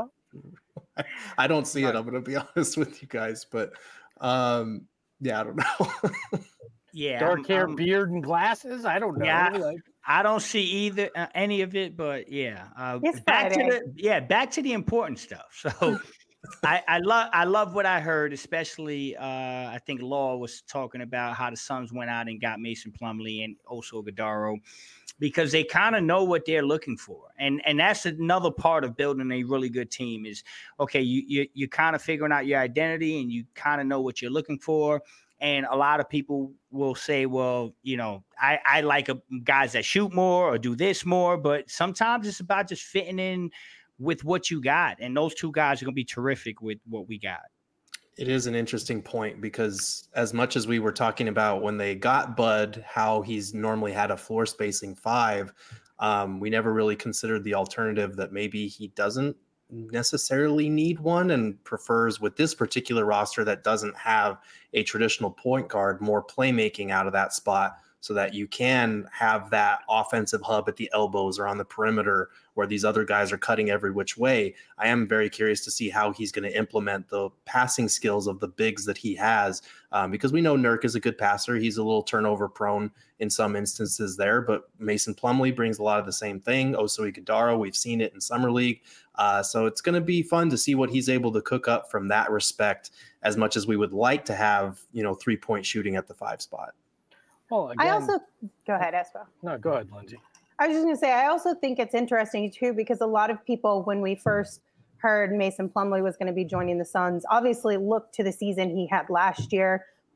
I don't see it. I'm going to be honest with you guys, but I don't know. Dark hair, beard, and glasses. I don't know. Yeah, I don't see either any of it, but back to the important stuff. So. I love what I heard, especially I think Law was talking about how the Suns went out and got Mason Plumlee and also Iguodala because they kind of know what they're looking for, and that's another part of building a really good team is okay, you kind of figuring out your identity and you kind of know what you're looking for. And a lot of people will say, well, I like guys that shoot more or do this more, but sometimes it's about just fitting in with what you got. And those 2 guys are going to be terrific with what we got. It is an interesting point because as much as we were talking about when they got Bud, how he's normally had a floor spacing 5, we never really considered the alternative that maybe he doesn't necessarily need one and prefers with this particular roster that doesn't have a traditional point guard, more playmaking out of that spot so that you can have that offensive hub at the elbows or on the perimeter where these other guys are cutting every which way. I am very curious to see how he's going to implement the passing skills of the bigs that he has because we know Nurk is a good passer. He's a little turnover prone in some instances there, but Mason Plumlee brings a lot of the same thing. Oso Iguodala, we've seen it in Summer League. So it's going to be fun to see what he's able to cook up from that respect as much as we would like to have, 3-point shooting at the 5 spot. Well, again, I also go ahead, Espo. No, go ahead, Lindsay. I was just going to say, I also think it's interesting too, because a lot of people, when we first heard Mason Plumlee was going to be joining the Suns, obviously looked to the season he had last year,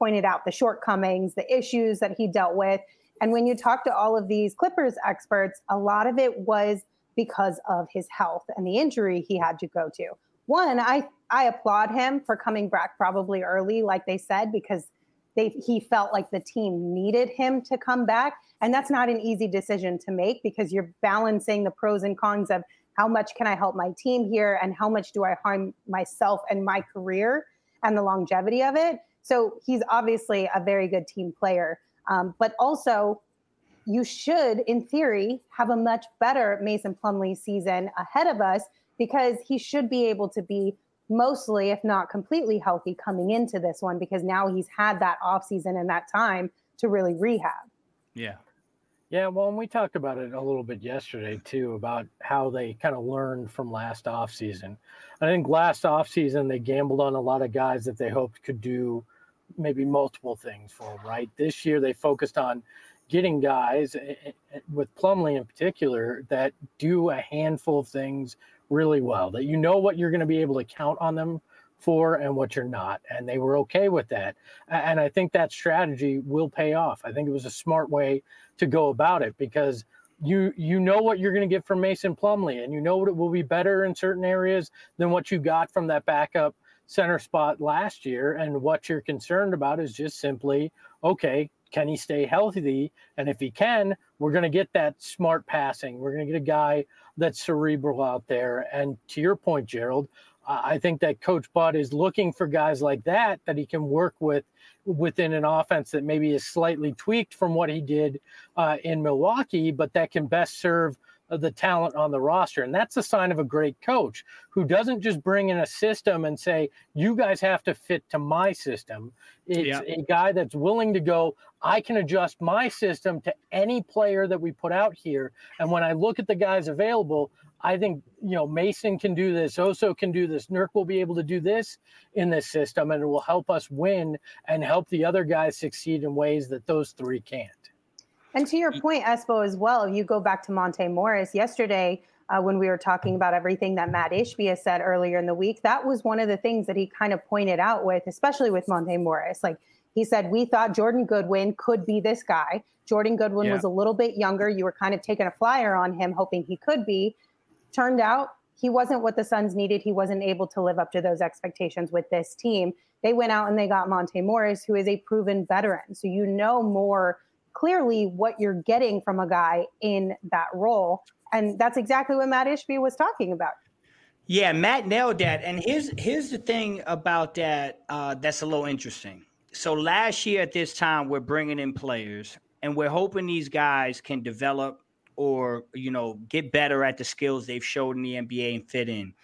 pointed out the shortcomings, the issues that he dealt with. And when you talk to all of these Clippers experts, a lot of it was because of his health and the injury he had to go to. One, I applaud him for coming back probably early, like they said, because he felt like the team needed him to come back. And that's not an easy decision to make because you're balancing the pros and cons of how much can I help my team here and how much do I harm myself and my career and the longevity of it. So he's obviously a very good team player. But also, you should, in theory, have a much better Mason Plumlee season ahead of us because he should be able to be mostly, if not completely healthy coming into this one because now he's had that offseason and that time to really rehab. Yeah. Yeah, well, and we talked about it a little bit yesterday, too, about how they kind of learned from last offseason. I think last offseason they gambled on a lot of guys that they hoped could do maybe multiple things for them, right? This year they focused on getting guys, with Plumlee in particular, that do a handful of things really well, that you know what you're going to be able to count on them for and what you're not. And they were okay with that. And I think that strategy will pay off. I think it was a smart way to go about it because you know what you're going to get from Mason Plumlee and you know it will be better in certain areas than what you got from that backup center spot last year. And what you're concerned about is just simply, okay, can he stay healthy? And if he can, we're going to get that smart passing. We're going to get a guy that's cerebral out there. And to your point, Gerald, I think that Coach Bud is looking for guys like that he can work with within an offense that maybe is slightly tweaked from what he did in Milwaukee, but that can best serve the talent on the roster. And that's a sign of a great coach who doesn't just bring in a system and say, you guys have to fit to my system. It's a guy that's willing to go, I can adjust my system to any player that we put out here. And when I look at the guys available, I think, Mason can do this. Oso can do this. Nurk will be able to do this in this system, and it will help us win and help the other guys succeed in ways that those three can't. And to your point, Espo, as well, you go back to Monte Morris yesterday when we were talking about everything that Matt Ishbia said earlier in the week. That was one of the things that he kind of pointed out with, especially with Monte Morris. Like he said, we thought Jordan Goodwin could be this guy. Jordan Goodwin was a little bit younger. You were kind of taking a flyer on him, hoping he could be. Turned out he wasn't what the Suns needed. He wasn't able to live up to those expectations with this team. They went out and they got Monte Morris, who is a proven veteran. So you know more clearly what you're getting from a guy in that role. And that's exactly what Matt Ishbia was talking about. Yeah, Matt nailed that. And here's the thing about that that's a little interesting. So last year at this time, we're bringing in players and we're hoping these guys can develop or, get better at the skills they've showed in the NBA and fit in.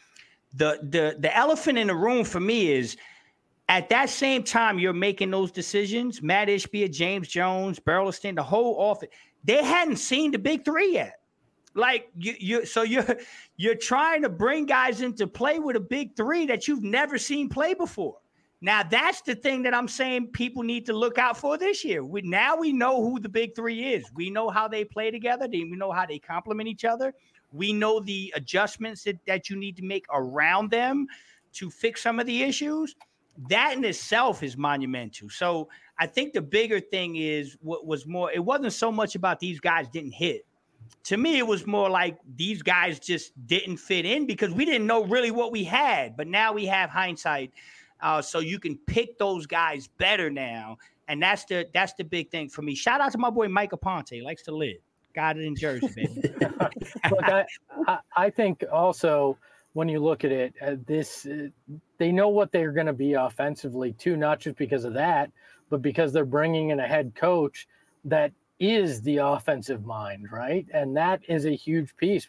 The elephant in the room for me is at that same time you're making those decisions, Matt Ishbia, James Jones, Burleson, the whole office, they hadn't seen the big three yet. Like you're trying to bring guys into play with a big three that you've never seen play before. Now that's the thing that I'm saying people need to look out for this year. Now we know who the big three is. We know how they play together. We know how they complement each other. We know the adjustments that you need to make around them to fix some of the issues. That in itself is monumental. So I think the bigger thing is what was more, it wasn't so much about these guys didn't hit. To me, it was more like these guys just didn't fit in because we didn't know really what we had. But now we have hindsight. So you can pick those guys better now. And that's the big thing for me. Shout out to my boy Mike Aponte. He likes to live. Got it in Jersey, baby. Look, I think also when you look at it, they know what they're going to be offensively too, not just because of that, but because they're bringing in a head coach that is the offensive mind, right? And that is a huge piece.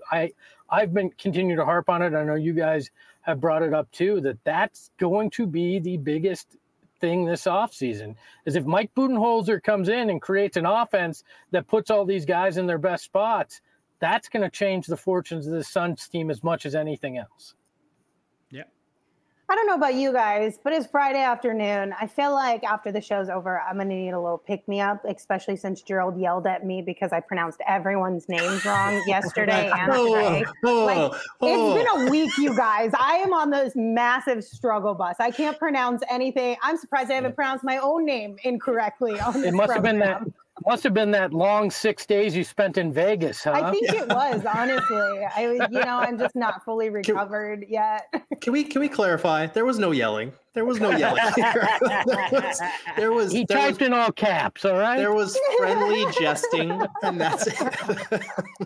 I've been continuing to harp on it. I know you guys have brought it up too, that's going to be the biggest thing this offseason is if Mike Budenholzer comes in and creates an offense that puts all these guys in their best spots, that's going to change the fortunes of the Suns team as much as anything else. Yeah. I don't know about you guys, but it's Friday afternoon. I feel like after the show's over, I'm going to need a little pick-me-up, especially since Gerald yelled at me because I pronounced everyone's names wrong yesterday and today. It's been a week, you guys. I am on this massive struggle bus. I can't pronounce anything. I'm surprised I haven't pronounced my own name incorrectly on this program. Must have been that long 6 days you spent in Vegas, huh? I think it was, honestly. I'm just not fully recovered yet. Can we clarify? There was no yelling. There was no yelling here. He typed in all caps, all right? There was friendly jesting, and that's it.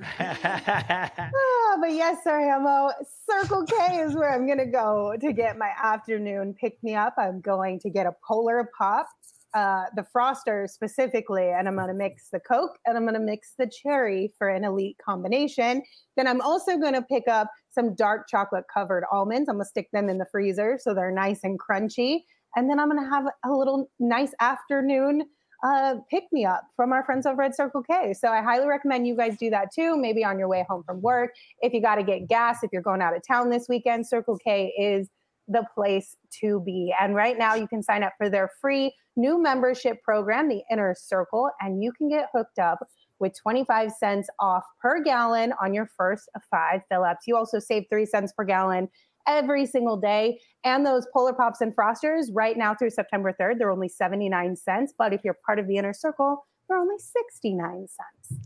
But yes, sir, Hamo. Circle K is where I'm going to go to get my afternoon pick-me-up. I'm going to get a Polar Pop. The Froster specifically, and I'm going to mix the Coke and I'm going to mix the cherry for an elite combination. Then I'm also going to pick up some dark chocolate covered almonds. I'm going to stick them in the freezer so they're nice and crunchy. And then I'm going to have a little nice afternoon pick-me-up from our friends over at Circle K. So I highly recommend you guys do that too, maybe on your way home from work. If you got to get gas, if you're going out of town this weekend, Circle K is the place to be. And right now you can sign up for their free new membership program, the Inner Circle, and you can get hooked up with 25 cents off per gallon on your first 5 fill-ups. You also save 3 cents per gallon every single day. And those Polar Pops and Frosters right now through September 3rd, they're only 79 cents. But if you're part of the Inner Circle, they're only 69 cents.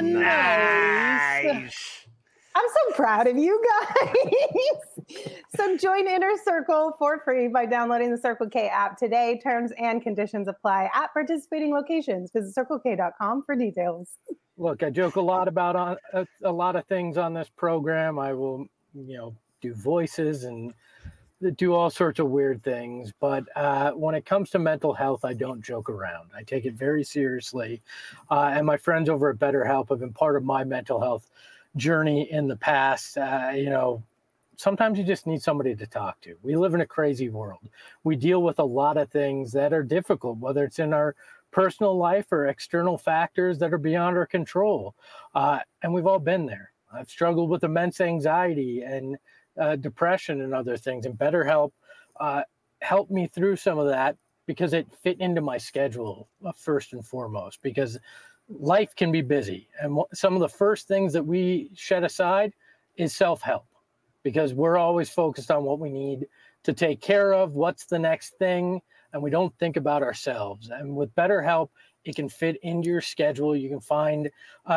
Nice. I'm so proud of you guys. So join Inner Circle for free by downloading the Circle K app today. Terms and conditions apply at participating locations. Visit CircleK.com for details. Look, I joke a lot about a lot of things on this program. I will, do voices and do all sorts of weird things. But when it comes to mental health, I don't joke around. I take it very seriously. And my friends over at BetterHelp have been part of my mental health journey in the past. Sometimes you just need somebody to talk to. We live in a crazy world. We deal with a lot of things that are difficult, whether it's in our personal life or external factors that are beyond our control. And we've all been there. I've struggled with immense anxiety and depression and other things. And BetterHelp helped me through some of that because it fit into my schedule first and foremost, because life can be busy. And some of the first things that we shed aside is self-help, because we're always focused on what we need to take care of, what's the next thing, and we don't think about ourselves. And with BetterHelp, it can fit into your schedule. You can find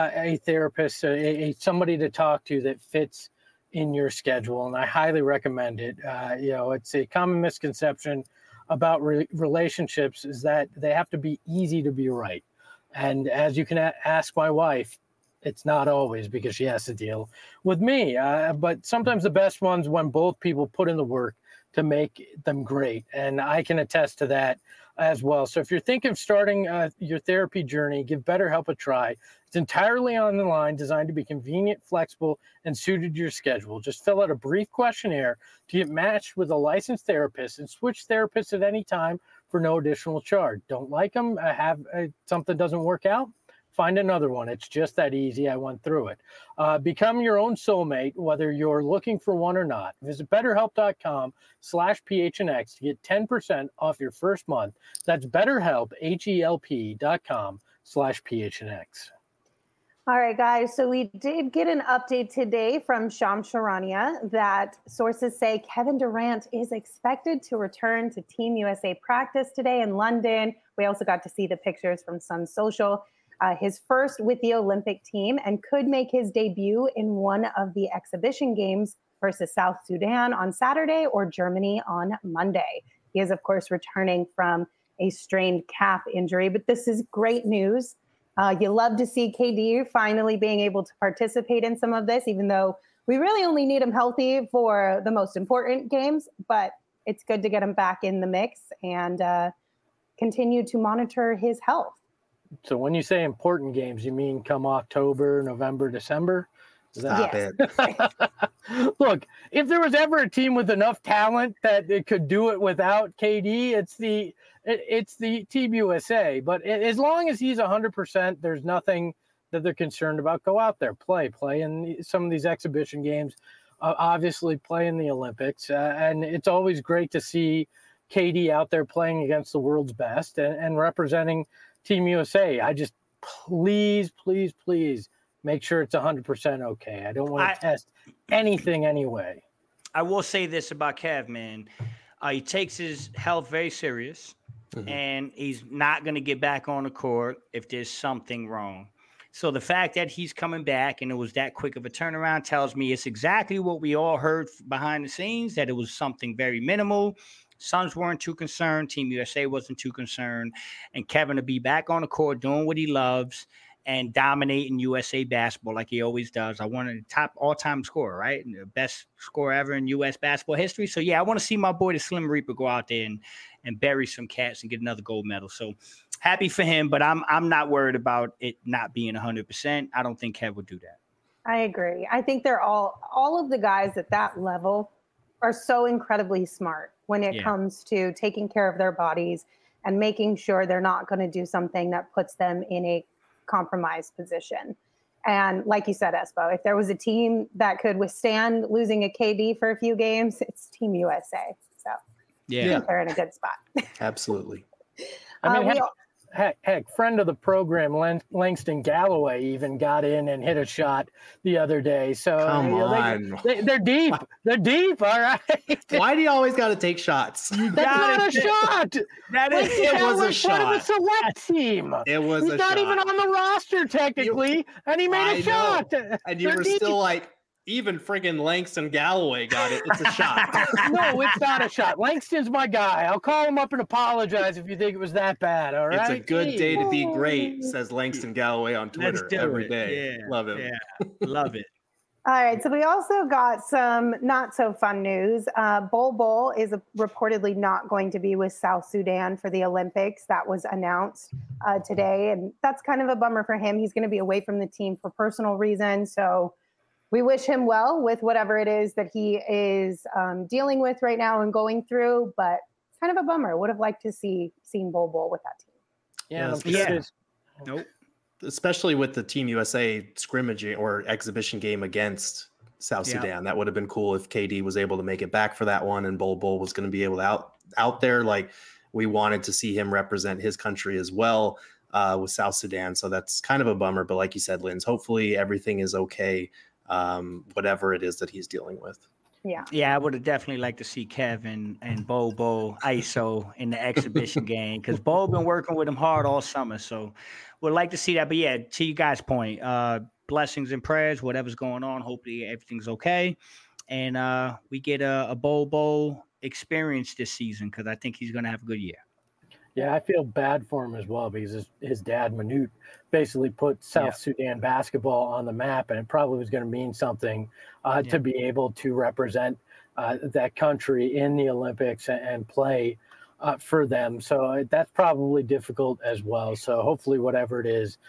a therapist, somebody to talk to that fits in your schedule. And I highly recommend it. It's a common misconception about relationships is that they have to be easy to be right. And as you can ask my wife, it's not always, because she has to deal with me. But sometimes the best ones when both people put in the work to make them great. And I can attest to that as well. So if you're thinking of starting your therapy journey, give BetterHelp a try. It's entirely online, designed to be convenient, flexible, and suited to your schedule. Just fill out a brief questionnaire to get matched with a licensed therapist and switch therapists at any time for no additional charge. Don't like them? Something doesn't work out? Find another one. It's just that easy. I went through it. Become your own soulmate, whether you're looking for one or not. Visit BetterHelp.com/PHNX to get 10% off your first month. That's BetterHelp, HELP.com/PHNX. All right, guys. So we did get an update today from Shams Charania that sources say Kevin Durant is expected to return to Team USA practice today in London. We also got to see the pictures from Sun Social. His first with the Olympic team, and could make his debut in one of the exhibition games versus South Sudan on Saturday or Germany on Monday. He is, of course, returning from a strained calf injury, but this is great news. You love to see KD finally being able to participate in some of this, even though we really only need him healthy for the most important games, but it's good to get him back in the mix and continue to monitor his health. So when you say important games, you mean come October, November, December? Stop it. Look, if there was ever a team with enough talent that it could do it without KD, it's the Team USA. But as long as he's 100%, there's nothing that they're concerned about. Go out there, play in some of these exhibition games. obviously play in the Olympics. And it's always great to see KD out there playing against the world's best and representing Team USA. I just please make sure it's 100% okay. I don't want to test anything anyway. I will say this about Kev, man. He takes his health very serious, and he's not going to get back on the court if there's something wrong. So the fact that he's coming back and it was that quick of a turnaround tells me it's exactly what we all heard behind the scenes, that it was something very minimal. Suns weren't too concerned. Team USA wasn't too concerned. And Kevin to be back on the court doing what he loves and dominating USA basketball like he always does. I wanted the top all-time scorer, right? And the best scorer ever in U.S. basketball history. So, yeah, I want to see my boy, the Slim Reaper, go out there and bury some cats and get another gold medal. So, happy for him, but I'm not worried about it not being 100%. I don't think Kev would do that. I agree. I think they're all of the guys at that level are so incredibly smart when it comes to taking care of their bodies and making sure they're not going to do something that puts them in a compromised position. And like you said, Espo, if there was a team that could withstand losing a KD for a few games, it's Team USA. So I think they're in a good spot. Absolutely. I mean, heck, friend of the program, Langston Galloway, even got in and hit a shot the other day. So they're deep. They're deep. All right. Why do you always got to take shots? That's not a shot. It was a shot. Part of a select team. It was He's a not shot. even on the roster technically, and he made a shot. And you were still like, even friggin' Langston Galloway got it. It's a shot. No, it's not a shot. Langston's my guy. I'll call him up and apologize if you think it was that bad. All right. It's a good day to be great, says Langston Galloway on Twitter every day. Yeah. Love him. Yeah. Love it. All right, so we also got some not so fun news. Bol Bol is reportedly not going to be with South Sudan for the Olympics. That was announced today, and that's kind of a bummer for him. He's going to be away from the team for personal reasons, so we wish him well with whatever it is that he is dealing with right now and going through, but kind of a bummer. Would have liked to seen Bol Bol with that team. Nope. Especially with the Team USA scrimmaging or exhibition game against South Sudan. That would have been cool if KD was able to make it back for that one and Bol Bol was going to be able to out there. Like, we wanted to see him represent his country as well with South Sudan. So that's kind of a bummer. But like you said, Linz, hopefully everything is okay, whatever it is that he's dealing with. Yeah, I would have definitely liked to see Kevin and Bol Bol ISO in the exhibition game because Bol been working with him hard all summer. So would like to see that. But yeah, to you guys' point, blessings and prayers, whatever's going on. Hopefully everything's okay. And we get a Bol Bol experience this season because I think he's going to have a good year. Yeah, I feel bad for him as well because his dad, Manute, basically put South Sudan basketball on the map, and it probably was going to mean something to be able to represent that country in the Olympics and play for them. So that's probably difficult as well. So hopefully whatever it is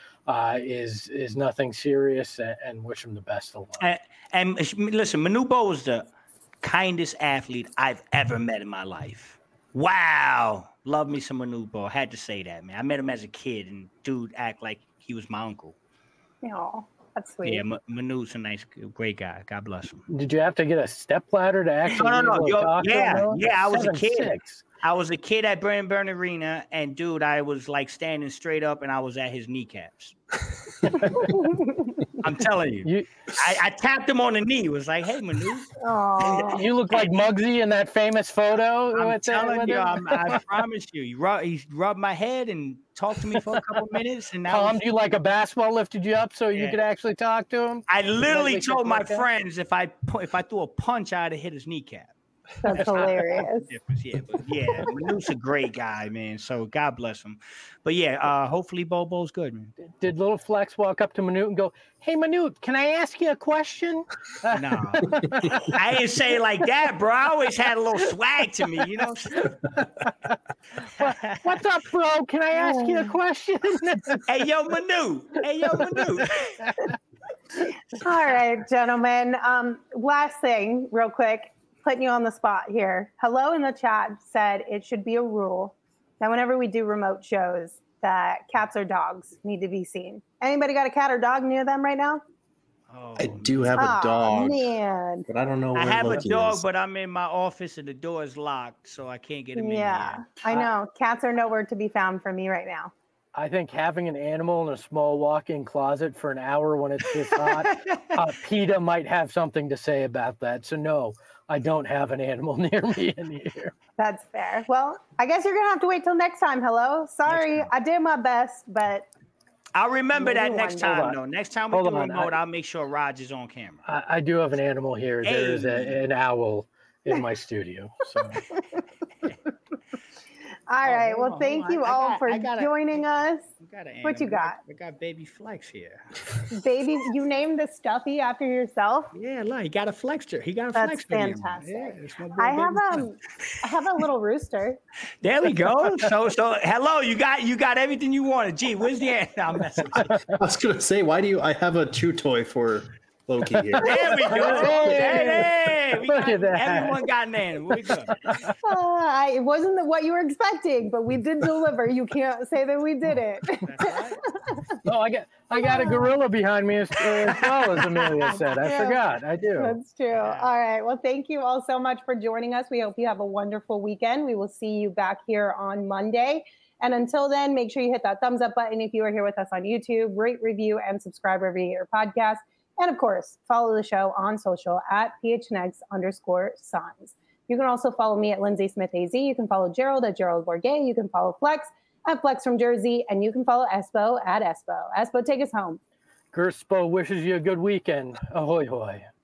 nothing serious, and wish him the best of luck. And listen, Manute Bol was the kindest athlete I've ever met in my life. Wow. Love me some Manute Bol. Had to say that, man. I met him as a kid, and dude act like he was my uncle. Oh, that's sweet. Yeah, Manute's a nice, great guy. God bless him. Did you have to get a stepladder to actually? No. Yeah, I was a 7'6". kid. I was a kid at Byrne Arena, and dude, I was like standing straight up, and I was at his kneecaps. I'm telling you. I tapped him on the knee. It was like, hey, Manute. You look like Muggsy in that famous photo. I'm telling you, I promise you. He rubbed my head and talked to me for a couple minutes. And Calmed you like a basketball lifted you up so you could actually talk to him? I literally told my friends if I threw a punch, I'd have hit his kneecap. That's hilarious. Yeah, Manute's a great guy, man. So God bless him. But yeah, hopefully Bol Bol's good, man. Did little Flex walk up to Manute and go, "Hey Manute, can I ask you a question?" No, I didn't say it like that, bro. I always had a little swag to me, you know. What's up, bro? Can I ask you a question? Hey, yo, Manute. All right, gentlemen. Last thing, real quick. Putting you on the spot here. Hello in the chat said it should be a rule that whenever we do remote shows that cats or dogs need to be seen. Anybody got a cat or dog near them right now? Oh, I do have a dog, man. but I don't know where I have Loki a dog, is. but I'm in my office and the door is locked, so I can't get him in Yeah, here. I know. Cats are nowhere to be found for me right now. I think having an animal in a small walk-in closet for an hour when it's this hot, PETA might have something to say about that. So no, I don't have an animal near me in here. That's fair. Well, I guess you're gonna have to wait till next time. Hello, sorry, I did my best, but I'll remember that Maybe next one day. time, though. Next time we Hold do on, remote, I'll make sure Raj is on camera. I do have an animal here. There is Hey. an owl in my studio. So all right. hold Well, on, thank hold on. you I all got- for I got a- joining us. We got an What you animal. got? I got baby Flex here. Baby, you named the stuffy after yourself. Yeah, look, he got a Flexer. He got a That's Flex video. fantastic. Yeah, it's my boy I Baby have Flex. I have a little rooster. There we go. So hello, you got everything you wanted. Gee, where's the answer? I'm messing with you. I was gonna say, why do you? I have a chew toy for Loki here. There we go. Hey, we Look at that. Everyone got an animal. We good. It wasn't what you were expecting, but we did deliver. You can't say that we didn't. oh, I got a gorilla behind me as well, as Amelia said. I Yeah. forgot. I do. That's true. All right. Well, thank you all so much for joining us. We hope you have a wonderful weekend. We will see you back here on Monday. And until then, make sure you hit that thumbs up button if you are here with us on YouTube, rate, review, and subscribe wherever you get your podcast. And of course, follow the show on social at PHNX_Suns. You can also follow me at Lindsay Smith AZ. You can follow Gerald at Gerald Bourget. You can follow Flex at Flex from Jersey. And you can follow Espo at Espo. Espo, take us home. Gerspo wishes you a good weekend. Ahoy, hoy.